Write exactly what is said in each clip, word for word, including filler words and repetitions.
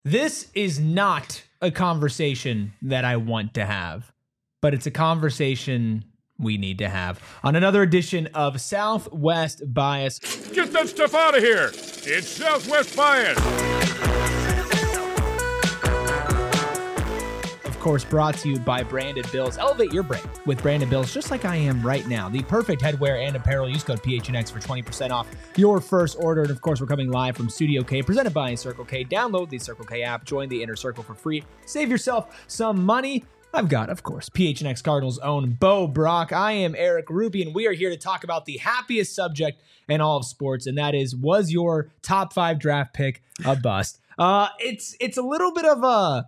This is not a conversation that I want to have, but it's a conversation we need to have on another edition of Southwest Bias. Get that stuff out of here. It's Southwest Bias. Of course, brought to you by Branded Bills. Elevate your brand with Branded Bills, just like I am right now. The perfect headwear and apparel. Use code P H N X for twenty percent off your first order. And of course, we're coming live from Studio K, presented by Circle K. Download the Circle K app. Join the Inner Circle for free. Save yourself some money. I've got, of course, P H N X Cardinals' own Bo Brock. I am Eric Ruby, and we are here to talk about the happiest subject in all of sports, and that is, was your top five draft pick a bust? Uh, it's it's a little bit of a...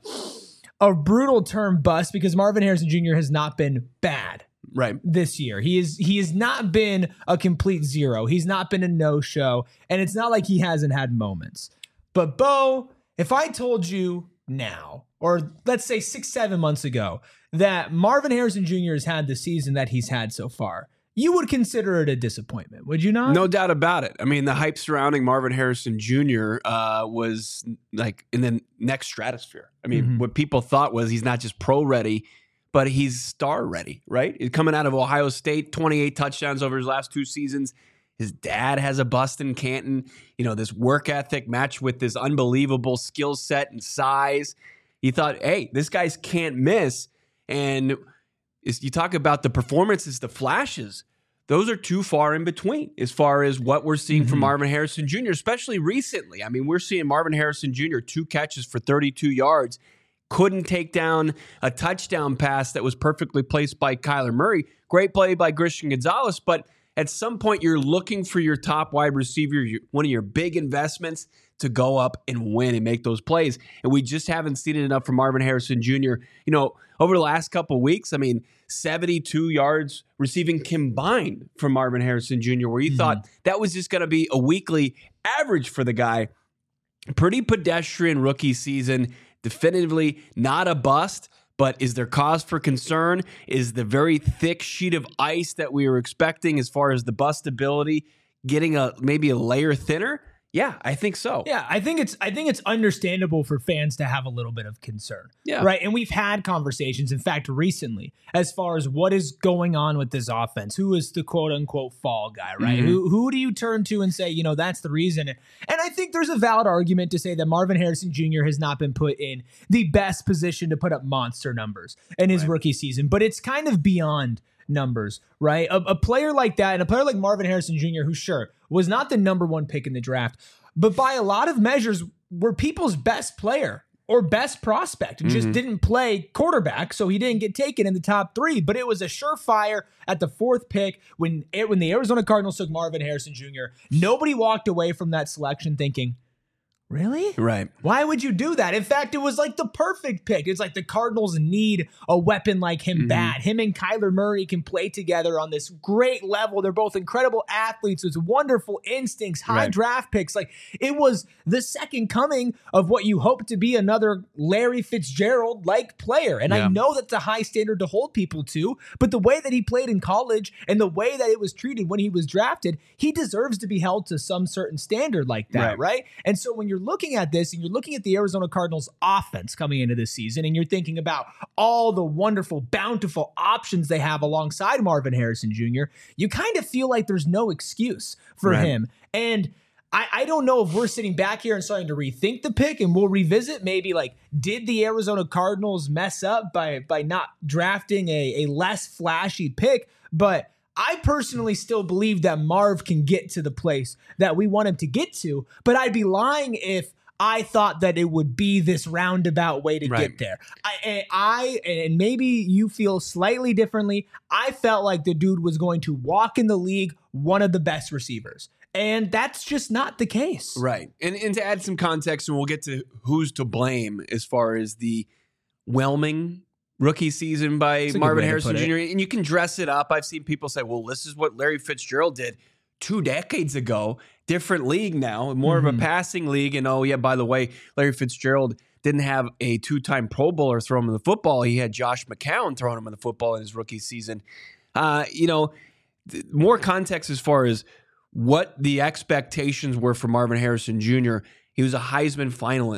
a brutal term bust because Marvin Harrison Junior has not been bad right this year. He is he has not been a complete zero. He's not been a no-show, and it's not like he hasn't had moments. But Bo, if I told you now, or let's say six, seven months ago, that Marvin Harrison Junior has had the season that he's had so far, you would consider it a disappointment, would you not? No doubt about it. I mean, the hype surrounding Marvin Harrison Junior uh, was like in the next stratosphere. I mean, mm-hmm. what people thought was he's not just pro ready, but he's star ready, right? He's coming out of Ohio State, twenty-eight touchdowns over his last two seasons. His dad has a bust in Canton. You know, this work ethic matched with this unbelievable skill set and size. You thought, hey, this guy's can't miss. And is you talk about the performances, the flashes, those are too far in between as far as what we're seeing mm-hmm. from Marvin Harrison Junior, especially recently. I mean, we're seeing Marvin Harrison Junior, two catches for thirty-two yards, couldn't take down a touchdown pass that was perfectly placed by Kyler Murray. Great play by Christian Gonzalez, but at some point you're looking for your top wide receiver, your, one of your big investments, to go up and win and make those plays. And we just haven't seen it enough from Marvin Harrison Junior You know, over the last couple of weeks, I mean, seventy-two yards receiving combined from Marvin Harrison Junior, where you mm-hmm. thought that was just going to be a weekly average for the guy. Pretty pedestrian rookie season, definitively not a bust, but is there cause for concern? Is the very thick sheet of ice that we were expecting as far as the bustability getting a maybe a layer thinner? Yeah, I think so. Yeah, I think it's I think it's understandable for fans to have a little bit of concern. Yeah. Right. And we've had conversations, in fact, recently, as far as what is going on with this offense. Who is the quote unquote fall guy, right? Mm-hmm. Who who do you turn to and say, you know, that's the reason? And I think there's a valid argument to say that Marvin Harrison Junior has not been put in the best position to put up monster numbers in his right. rookie season, but it's kind of beyond numbers, right? A, a player like that, and a player like Marvin Harrison Junior, who sure was not the number one pick in the draft, but by a lot of measures were people's best player or best prospect, and mm-hmm. just didn't play quarterback, so he didn't get taken in the top three. But it was a surefire at the fourth pick when it, when the Arizona Cardinals took Marvin Harrison Junior Nobody walked away from that selection thinking, really? Right. Why would you do that? In fact, it was like the perfect pick. It's like the Cardinals need a weapon like him mm-hmm. bad. Him and Kyler Murray can play together on this great level. They're both incredible athletes with wonderful instincts, high right. draft picks. Like, it was the second coming of what you hope to be another Larry Fitzgerald-like player. And yeah. I know that's a high standard to hold people to, but the way that he played in college and the way that it was treated when he was drafted, he deserves to be held to some certain standard like that, right? right? And so when you're looking at this and you're looking at the Arizona Cardinals offense coming into this season, and you're thinking about all the wonderful, bountiful options they have alongside Marvin Harrison Junior, you kind of feel like there's no excuse for right. him. And I, I don't know if we're sitting back here and starting to rethink the pick, and we'll revisit maybe like, did the Arizona Cardinals mess up by, by not drafting a, a less flashy pick? But I personally still believe that Marv can get to the place that we want him to get to, but I'd be lying if I thought that it would be this roundabout way to right. get there. I, I, and maybe you feel slightly differently. I felt like the dude was going to walk in the league one of the best receivers, and that's just not the case. Right. And, and to add some context, and we'll get to who's to blame as far as the whelming rookie season by Marvin Harrison Junior And you can dress it up. I've seen people say, well, this is what Larry Fitzgerald did two decades ago. Different league now, more mm-hmm. of a passing league. And oh, yeah, by the way, Larry Fitzgerald didn't have a two-time Pro Bowler throw him in the football. He had Josh McCown throwing him in the football in his rookie season. Uh, you know, th- more context as far as what the expectations were for Marvin Harrison Junior He was a Heisman finalist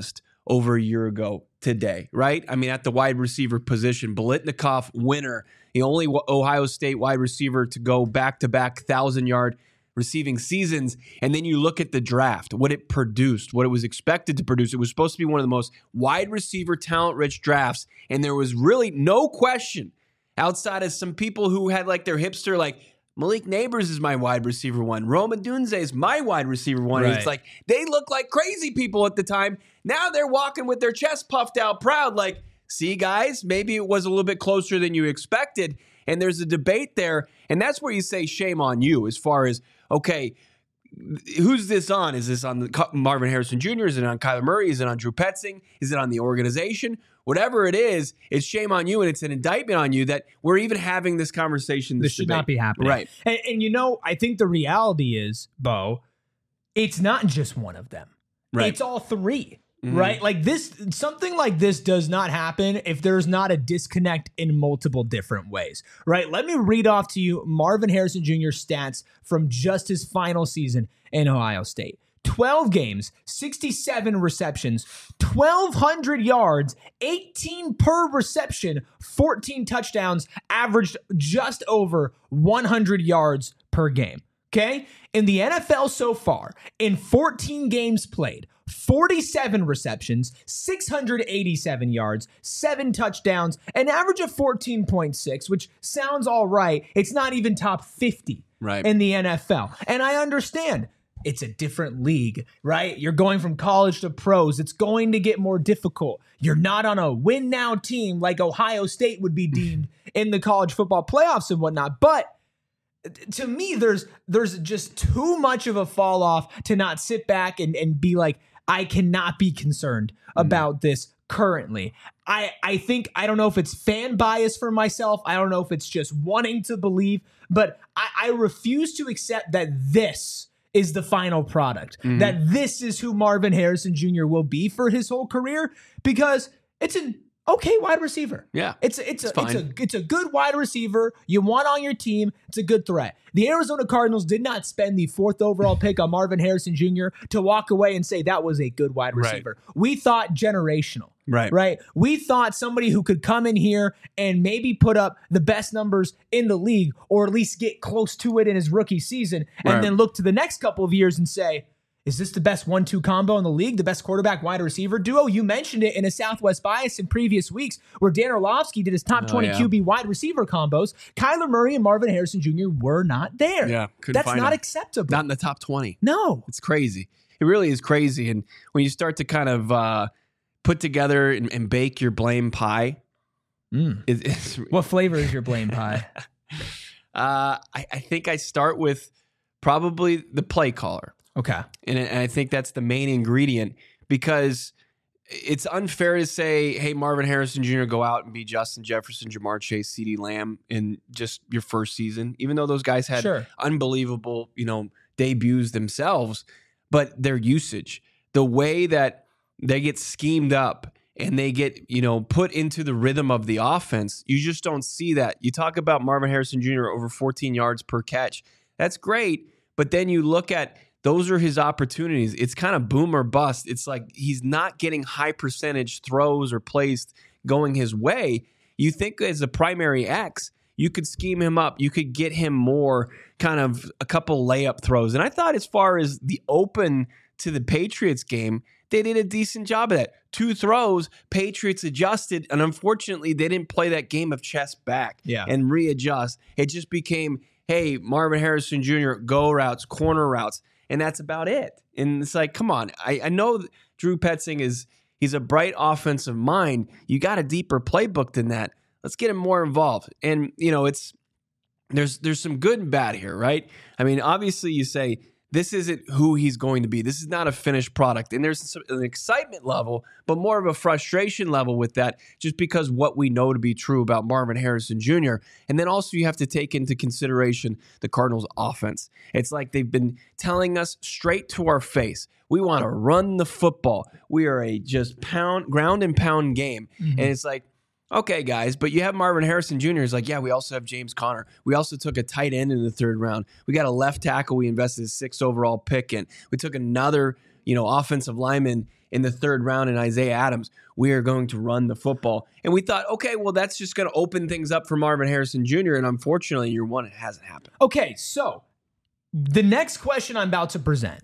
over a year ago today, right? I mean, at the wide receiver position, Biletnikoff, winner, the only Ohio State wide receiver to go back-to-back thousand-yard receiving seasons. And then you look at the draft, what it produced, what it was expected to produce. It was supposed to be one of the most wide receiver talent-rich drafts, and there was really no question outside of some people who had like their hipster, like, Malik Neighbors is my wide receiver one. Rome Odunze is my wide receiver one. Right. And it's like, they look like crazy people at the time. Now they're walking with their chest puffed out proud, like, see, guys, maybe it was a little bit closer than you expected. And there's a debate there. And that's where you say shame on you as far as, okay, who's this on? Is this on the Marvin Harrison Junior? Is it on Kyler Murray? Is it on Drew Petzing? Is it on the organization? Whatever it is, it's shame on you, and it's an indictment on you that we're even having this conversation. This, this should debate. not be happening. Right. And, and, you know, I think the reality is, Bo, it's not just one of them. Right. It's all three. Mm-hmm. Right? Like this, something like this does not happen if there's not a disconnect in multiple different ways, right? Let me read off to you Marvin Harrison Junior's stats from just his final season in Ohio State. twelve games, sixty-seven receptions, twelve hundred yards, eighteen per reception, fourteen touchdowns, averaged just over one hundred yards per game. Okay? In the N F L so far, in fourteen games played, forty-seven receptions, six hundred eighty-seven yards, seven touchdowns, an average of fourteen point six, which sounds all right. It's not even top fifty right. in the N F L. And I understand it's a different league, right? You're going from college to pros. It's going to get more difficult. You're not on a win now team like Ohio State would be deemed in the college football playoffs and whatnot. But to me, there's there's just too much of a fall off to not sit back and, and be like, I cannot be concerned about this currently. I, I think, I don't know if it's fan bias for myself. I don't know if it's just wanting to believe, but I, I refuse to accept that this is the final product, mm-hmm. that this is who Marvin Harrison Junior will be for his whole career, because it's an okay wide receiver. Yeah. It's it's, it's a fine. it's a it's a good wide receiver. You want on your team. It's a good threat. The Arizona Cardinals did not spend the fourth overall pick on Marvin Harrison Junior to walk away and say that was a good wide receiver. Right. We thought generational. Right. Right. We thought somebody who could come in here and maybe put up the best numbers in the league, or at least get close to it in his rookie season, and right. then look to the next couple of years and say, is this the best one two combo in the league? The best quarterback wide receiver duo? You mentioned it in a Southwest Bias in previous weeks where Dan Orlovsky did his top oh, twenty yeah. Q B wide receiver combos. Kyler Murray and Marvin Harrison Junior were not there. Yeah, That's not him. acceptable. Not in the top twenty. No. It's crazy. It really is crazy. And when you start to kind of uh, put together and, and bake your blame pie. Mm. It, it's, what flavor is your blame pie? uh, I, I think I start with probably the play caller. Okay. And, and I think that's the main ingredient, because it's unfair to say, hey, Marvin Harrison Junior, go out and be Justin Jefferson, Jamar Chase, CeeDee Lamb in just your first season, even though those guys had sure. unbelievable, you know, debuts themselves. But their usage, the way that they get schemed up and they get, you know, put into the rhythm of the offense, you just don't see that. You talk about Marvin Harrison Junior over fourteen yards per catch. That's great. But then you look at, those are his opportunities. It's kind of boom or bust. It's like he's not getting high percentage throws or plays going his way. You think as a primary X, you could scheme him up. You could get him more kind of a couple layup throws. And I thought as far as the open to the Patriots game, they did a decent job of that. Two throws, Patriots adjusted, and unfortunately they didn't play that game of chest back yeah. and readjust. It just became, hey, Marvin Harrison Junior, go routes, corner routes. And that's about it. And it's like, come on. I, I know Drew Petzing is he's a bright offensive mind. You got a deeper playbook than that. Let's get him more involved. And, you know, it's there's there's some good and bad here, right? I mean, obviously you say this isn't who he's going to be. This is not a finished product. And there's some, an excitement level, but more of a frustration level with that, just because what we know to be true about Marvin Harrison Junior And then also you have to take into consideration the Cardinals' offense. It's like they've been telling us straight to our face, we want to run the football. We are a just pound, ground and pound game. Mm-hmm. And it's like, okay, guys, but you have Marvin Harrison Junior It's like, yeah, we also have James Conner. We also took a tight end in the third round. We got a left tackle we invested a sixth overall pick in. We took another, you know, offensive lineman in the third round and Isaiah Adams. We are going to run the football. And we thought, okay, well, that's just going to open things up for Marvin Harrison Junior And unfortunately, year one, it hasn't happened. Okay, so the next question I'm about to present,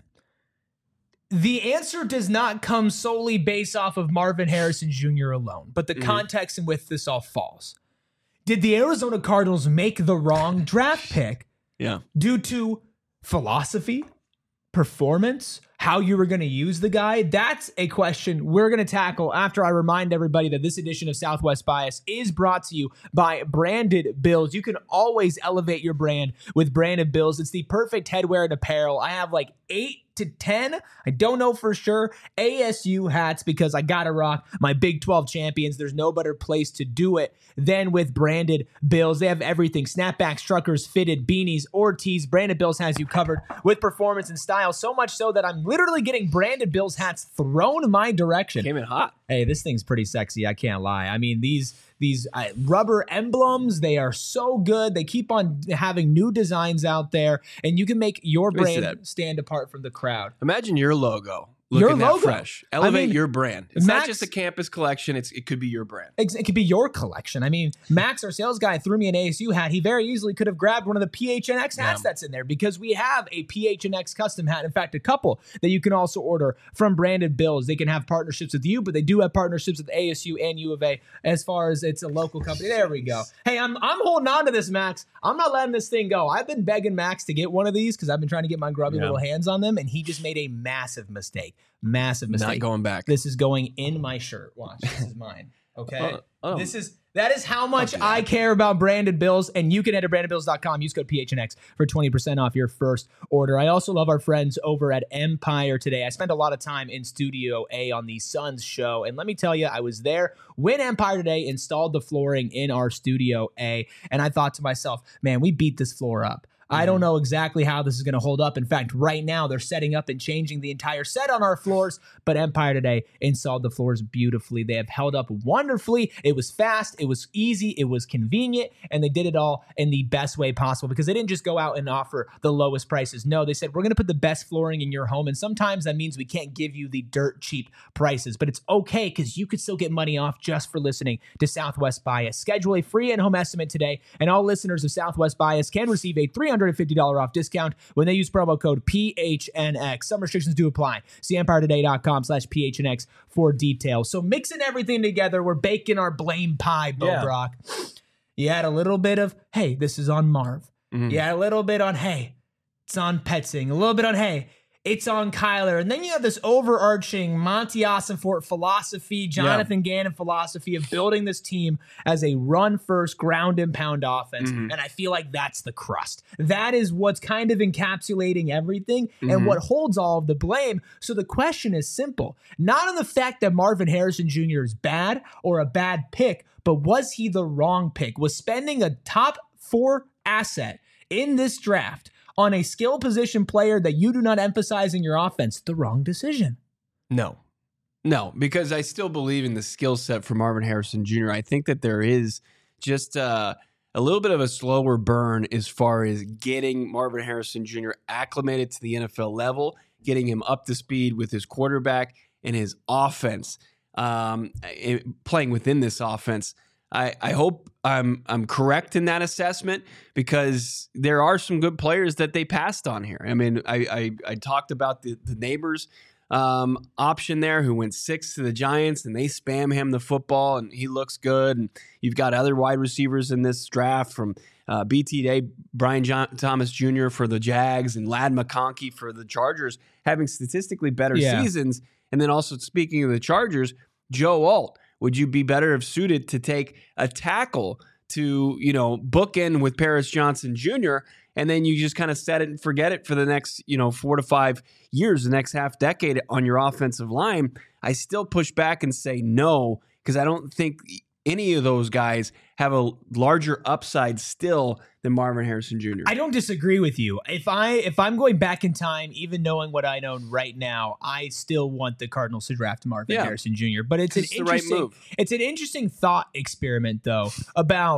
the answer does not come solely based off of Marvin Harrison Junior alone, but the mm-hmm. context in which this all falls. Did the Arizona Cardinals make the wrong draft pick yeah. due to philosophy, performance, how you were going to use the guy? That's a question we're going to tackle after I remind everybody that this edition of Southwest Bias is brought to you by Branded Bills. You can always elevate your brand with Branded Bills. It's the perfect headwear and apparel. I have like eight to ten, I don't know for sure, A S U hats because I gotta rock my Big twelve champions. There's no better place to do it than with Branded Bills. They have everything: snapbacks, truckers, fitted, beanies, or tees. Branded Bills has you covered with performance and style, so much so that I'm literally getting Branded Bills hats thrown my direction. Came in hot. Hey, this thing's pretty sexy, I can't lie. I mean, these These uh, rubber emblems, they are so good. They keep on having new designs out there, and you can make your brand stand apart from the crowd. Imagine your logo looking your logo. that fresh. Elevate I mean, your brand. It's Max, not just a campus collection. It's It could be your brand. It could be your collection. I mean, Max, our sales guy, threw me an A S U hat. He very easily could have grabbed one of the P H N X hats yeah. that's in there because we have a P H N X custom hat. In fact, a couple that you can also order from Branded Bills. They can have partnerships with you, but they do have partnerships with A S U and U of A as far as it's a local company. There we go. Hey, I'm I'm holding on to this, Max. I'm not letting this thing go. I've been begging Max to get one of these because I've been trying to get my grubby yeah. little hands on them, and he just made a massive mistake. Massive mistake. Not going back. This is going in my shirt. Watch, this is mine. Okay. Oh, oh. This is that is how much I care about Branded Bills, and you can head to branded bills dot com. Use code P H N X for twenty percent off your first order. I also love our friends over at Empire Today. I spent a lot of time in Studio A on the Suns show, and let me tell you, I was there when Empire Today installed the flooring in our Studio A, and I thought to myself, man, we beat this floor up. I don't know exactly how this is going to hold up. In fact, right now they're setting up and changing the entire set on our floors, but Empire Today installed the floors beautifully. They have held up wonderfully. It was fast, it was easy, it was convenient, and they did it all in the best way possible because they didn't just go out and offer the lowest prices. No, they said, we're going to put the best flooring in your home, and sometimes that means we can't give you the dirt cheap prices, but it's okay because you could still get money off just for listening to Southwest Bias. Schedule a free in-home estimate today, and all listeners of Southwest Bias can receive a three hundred fifty dollars off discount when they use promo code P H N X. Some restrictions do apply. See empire today dot com slash P H N X for details. So mixing everything together, we're baking our blame pie, Bo yeah. Brock. You had a little bit of, hey, this is on Marv. Mm-hmm. You had a little bit on, hey, it's on Petzing. A little bit on, hey, it's on Kyler. And then you have this overarching Monty Ossenfort philosophy, Jonathan yeah. Gannon philosophy of building this team as a run-first, ground-and-pound offense. Mm-hmm. And I feel like that's the crust. That is what's kind of encapsulating everything mm-hmm. and what holds all of the blame. So the question is simple. Not on the fact that Marvin Harrison Junior is bad or a bad pick, but was he the wrong pick? Was spending a top four asset in this draft on a skill position player that you do not emphasize in your offense the wrong decision? No. No, because I still believe in the skill set for Marvin Harrison Junior I think that there is just uh, a little bit of a slower burn as far as getting Marvin Harrison Junior acclimated to the N F L level, getting him up to speed with his quarterback and his offense, um, playing within this offense. I, I hope I'm I'm correct in that assessment because there are some good players that they passed on here. I mean, I I, I talked about the, the Neighbors um, option there who went six to the Giants and they spam him the football and he looks good. And you've got other wide receivers in this draft from uh, B T Day, Brian John, Thomas Junior for the Jags and Ladd McConkey for the Chargers having statistically better yeah. seasons. And then also speaking of the Chargers, Joe Alt. Would you be better if suited to take a tackle to, you know, bookend with Paris Johnson Junior and then you just kind of set it and forget it for the next, you know, four to five years, the next half decade on your offensive line? I still push back and say no because I don't think any of those guys have a larger upside still than Marvin Harrison Junior I don't disagree with you. If I if I'm going back in time, even knowing what I know right now, I still want the Cardinals to draft Marvin yeah. Harrison Junior But it's an it's interesting the right move. It's an interesting thought experiment though about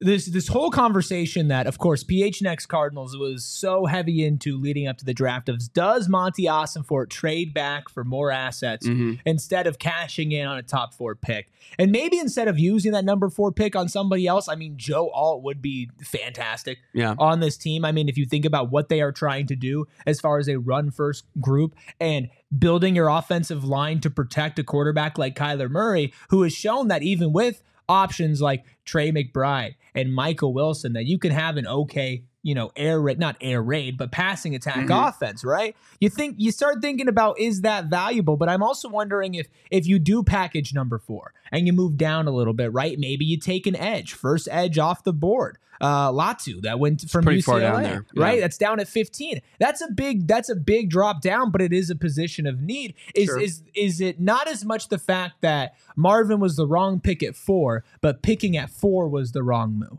this this whole conversation that, of course, P H N X Cardinals was so heavy into leading up to the draft of, does Monty Ossenfort trade back for more assets mm-hmm. instead of cashing in on a top four pick? And maybe instead of using that number four pick on somebody else, I mean, Joe Alt would be fantastic yeah. on this team. I mean, if you think about what they are trying to do as far as a run-first group and building your offensive line to protect a quarterback like Kyler Murray, who has shown that even with options like Trey McBride and Michael Wilson, that you can have an okay, you know, air raid, not air raid, but passing attack mm-hmm. offense, right? You think you start thinking about, is that valuable? But I'm also wondering if if you do package number four and you move down a little bit, right? Maybe you take an edge, first edge off the board. Uh, Latu that went from pretty U C L A, far down there, yeah. right? That's down at fifteen. That's a big, that's a big drop down, but it is a position of need. Is sure. is is it not as much the fact that Marvin was the wrong pick at four, but picking at four was the wrong move?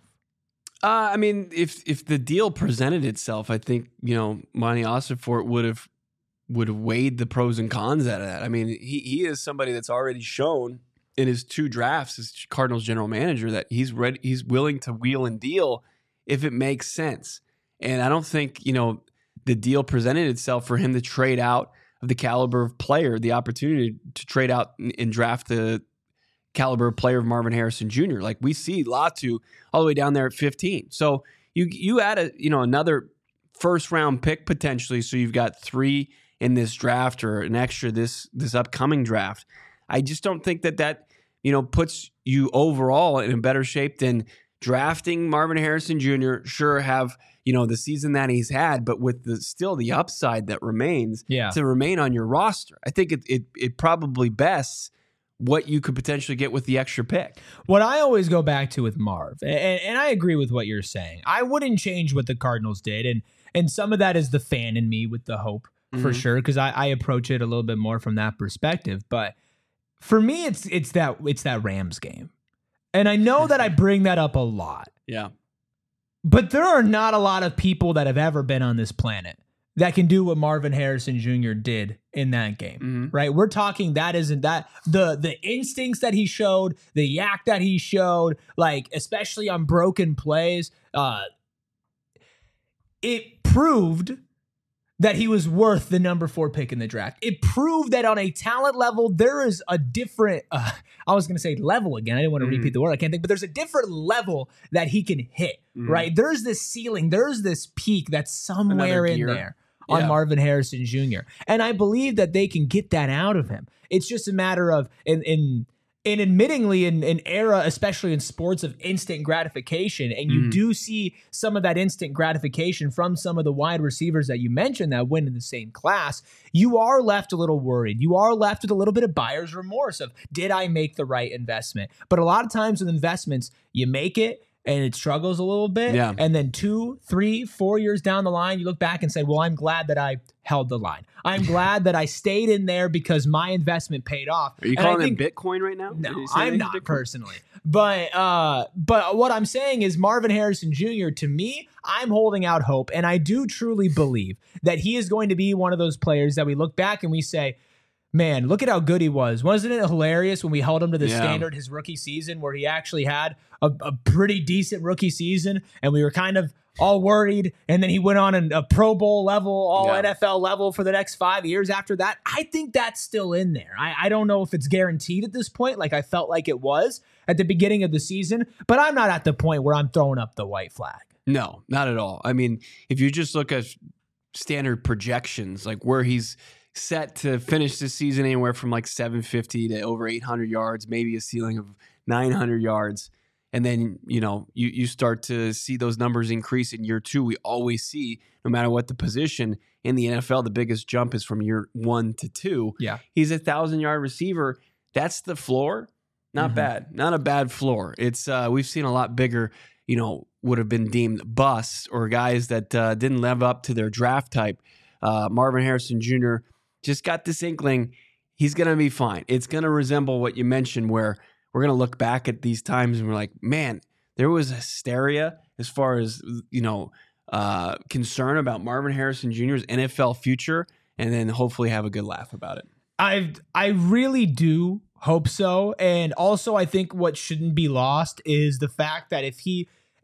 Uh, I mean, if if the deal presented itself, I think, you know, Monty Ossenfort would have would have weighed the pros and cons out of that. I mean, he he is somebody that's already shown in his two drafts as Cardinals general manager that he's ready, he's willing to wheel and deal if it makes sense. And I don't think, you know, the deal presented itself for him to trade out of the caliber of player, the opportunity to trade out and draft the caliber of player of Marvin Harrison Junior Like we see Latu all the way down there at fifteen. So you you add a, you know, another first round pick potentially. So you've got three in this draft or an extra this this upcoming draft. I just don't think that that, you know, puts you overall in a better shape than drafting Marvin Harrison Junior Sure, have, you know, the season that he's had, but with the still the upside that remains yeah. to remain on your roster. I think it it it probably bests what you could potentially get with the extra pick. What I always go back to with Marv, and, and I agree with what you're saying, I wouldn't change what the Cardinals did, and and some of that is the fan in me with the hope, mm-hmm. for sure, because I, I approach it a little bit more from that perspective, but for me, it's it's that it's that Rams game. And I know that I bring that up a lot. Yeah. But there are not a lot of people that have ever been on this planet that can do what Marvin Harrison Junior did in that game. Mm-hmm. Right? We're talking that isn't that the the instincts that he showed, the yak that he showed, like especially on broken plays, uh it proved that he was worth the number four pick in the draft. It proved that on a talent level, there is a different, uh, I was going to say level again. I didn't want to mm. repeat the word. I can't think, but there's a different level that he can hit, mm. right? There's this ceiling. There's this peak that's somewhere in there on yeah. Marvin Harrison Junior And I believe that they can get that out of him. It's just a matter of, in, in, And admittingly, in an era, especially in sports, of instant gratification, and you mm. do see some of that instant gratification from some of the wide receivers that you mentioned that win in the same class, you are left a little worried. You are left with a little bit of buyer's remorse of, did I make the right investment? But a lot of times with investments, you make it, and it struggles a little bit. Yeah. And then two, three, four years down the line, you look back and say, well, I'm glad that I held the line. I'm glad that I stayed in there because my investment paid off. Are you and calling think, it Bitcoin right now? No, I'm not personally. But uh, but what I'm saying is Marvin Harrison Junior, to me, I'm holding out hope. And I do truly believe that he is going to be one of those players that we look back and we say, man, look at how good he was. Wasn't it hilarious when we held him to the yeah. standard his rookie season where he actually had a, a pretty decent rookie season and we were kind of all worried, and then he went on a, a Pro Bowl level, all yeah. N F L level for the next five years after that? I think that's still in there. I, I don't know if it's guaranteed at this point, like I felt like it was at the beginning of the season, but I'm not at the point where I'm throwing up the white flag. No, not at all. I mean, if you just look at standard projections, like where he's set to finish this season anywhere from like seven fifty to over eight hundred yards, maybe a ceiling of nine hundred yards. And then, you know, you, you start to see those numbers increase in year two. We always see, no matter what the position in the N F L, the biggest jump is from year one to two. Yeah. He's a thousand-yard receiver. That's the floor. Not mm-hmm. bad. Not a bad floor. It's uh, we've seen a lot bigger, you know, would have been deemed busts or guys that uh, didn't live up to their draft type. Uh, Marvin Harrison Junior just got this inkling. He's going to be fine. It's going to resemble what you mentioned where we're going to look back at these times and we're like, man, there was hysteria as far as, you know, uh, concern about Marvin Harrison Junior's N F L future, and then hopefully have a good laugh about it. I I really do hope so. And also I think what shouldn't be lost is the fact that if he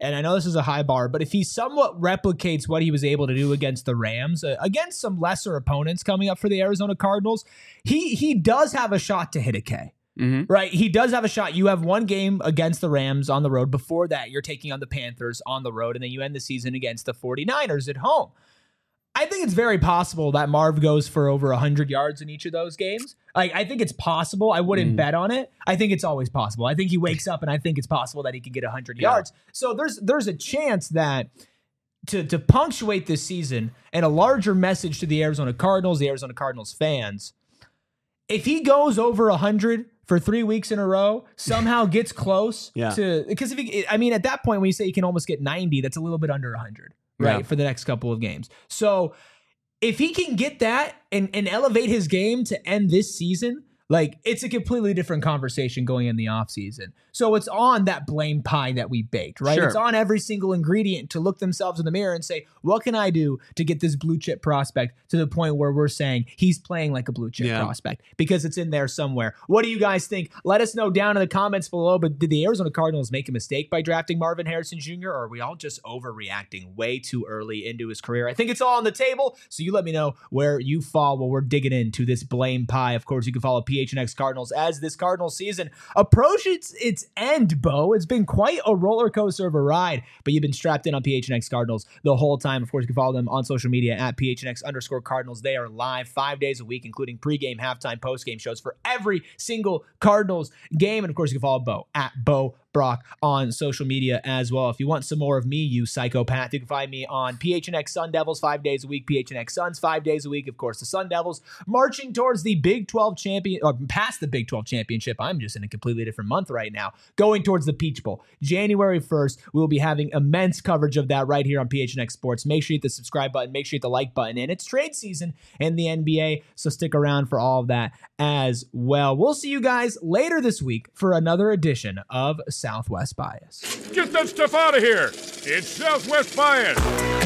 and I know this is a high bar, but if he somewhat replicates what he was able to do against the Rams, uh, against some lesser opponents coming up for the Arizona Cardinals, he he does have a shot to hit a K. Mm-hmm. Right? He does have a shot. You have one game against the Rams on the road. Before that, you're taking on the Panthers on the road, and then you end the season against the 49ers at home. I think it's very possible that Marv goes for over one hundred yards in each of those games. Like, I think it's possible. I wouldn't mm. bet on it. I think it's always possible. I think he wakes up, and I think it's possible that he could get one hundred yeah. yards. So there's there's a chance that to, to punctuate this season, and a larger message to the Arizona Cardinals, the Arizona Cardinals fans, if he goes over one hundred for three weeks in a row, somehow gets close yeah. to, because if he, I mean, at that point when you say you can almost get ninety, that's a little bit under one hundred. Right, yeah. for the next couple of games. So if he can get that and, and elevate his game to end this season, like, it's a completely different conversation going in the offseason. So it's on that blame pie that we baked, right? Sure. It's on every single ingredient to look themselves in the mirror and say, what can I do to get this blue chip prospect to the point where we're saying he's playing like a blue chip yeah. prospect? Because it's in there somewhere. What do you guys think? Let us know down in the comments below. But did the Arizona Cardinals make a mistake by drafting Marvin Harrison Junior? Or are we all just overreacting way too early into his career? I think it's all on the table. So you let me know where you fall while we're digging into this blame pie. Of course, you can follow P H N X Cardinals as this Cardinals season approaches its end, Bo. It's been quite a roller coaster of a ride, but you've been strapped in on P H N X Cardinals the whole time. Of course, you can follow them on social media at P H N X underscore Cardinals. They are live five days a week, including pregame, halftime, postgame shows for every single Cardinals game. And of course, you can follow Bo at Bo Brock on social media as well. If you want some more of me, you psychopath, you can find me on P H N X Sun Devils five days a week, P H N X Suns five days a week. Of course, the Sun Devils marching towards the Big twelve champion, or past the Big twelve championship. I'm just in a completely different month right now, going towards the Peach Bowl. January first, we will be having immense coverage of that right here on P H N X Sports. Make sure you hit the subscribe button, make sure you hit the like button, and it's trade season in the N B A, so stick around for all of that as well. We'll see you guys later this week for another edition of Southwest Bias. Get that stuff out of here. It's Southwest Bias.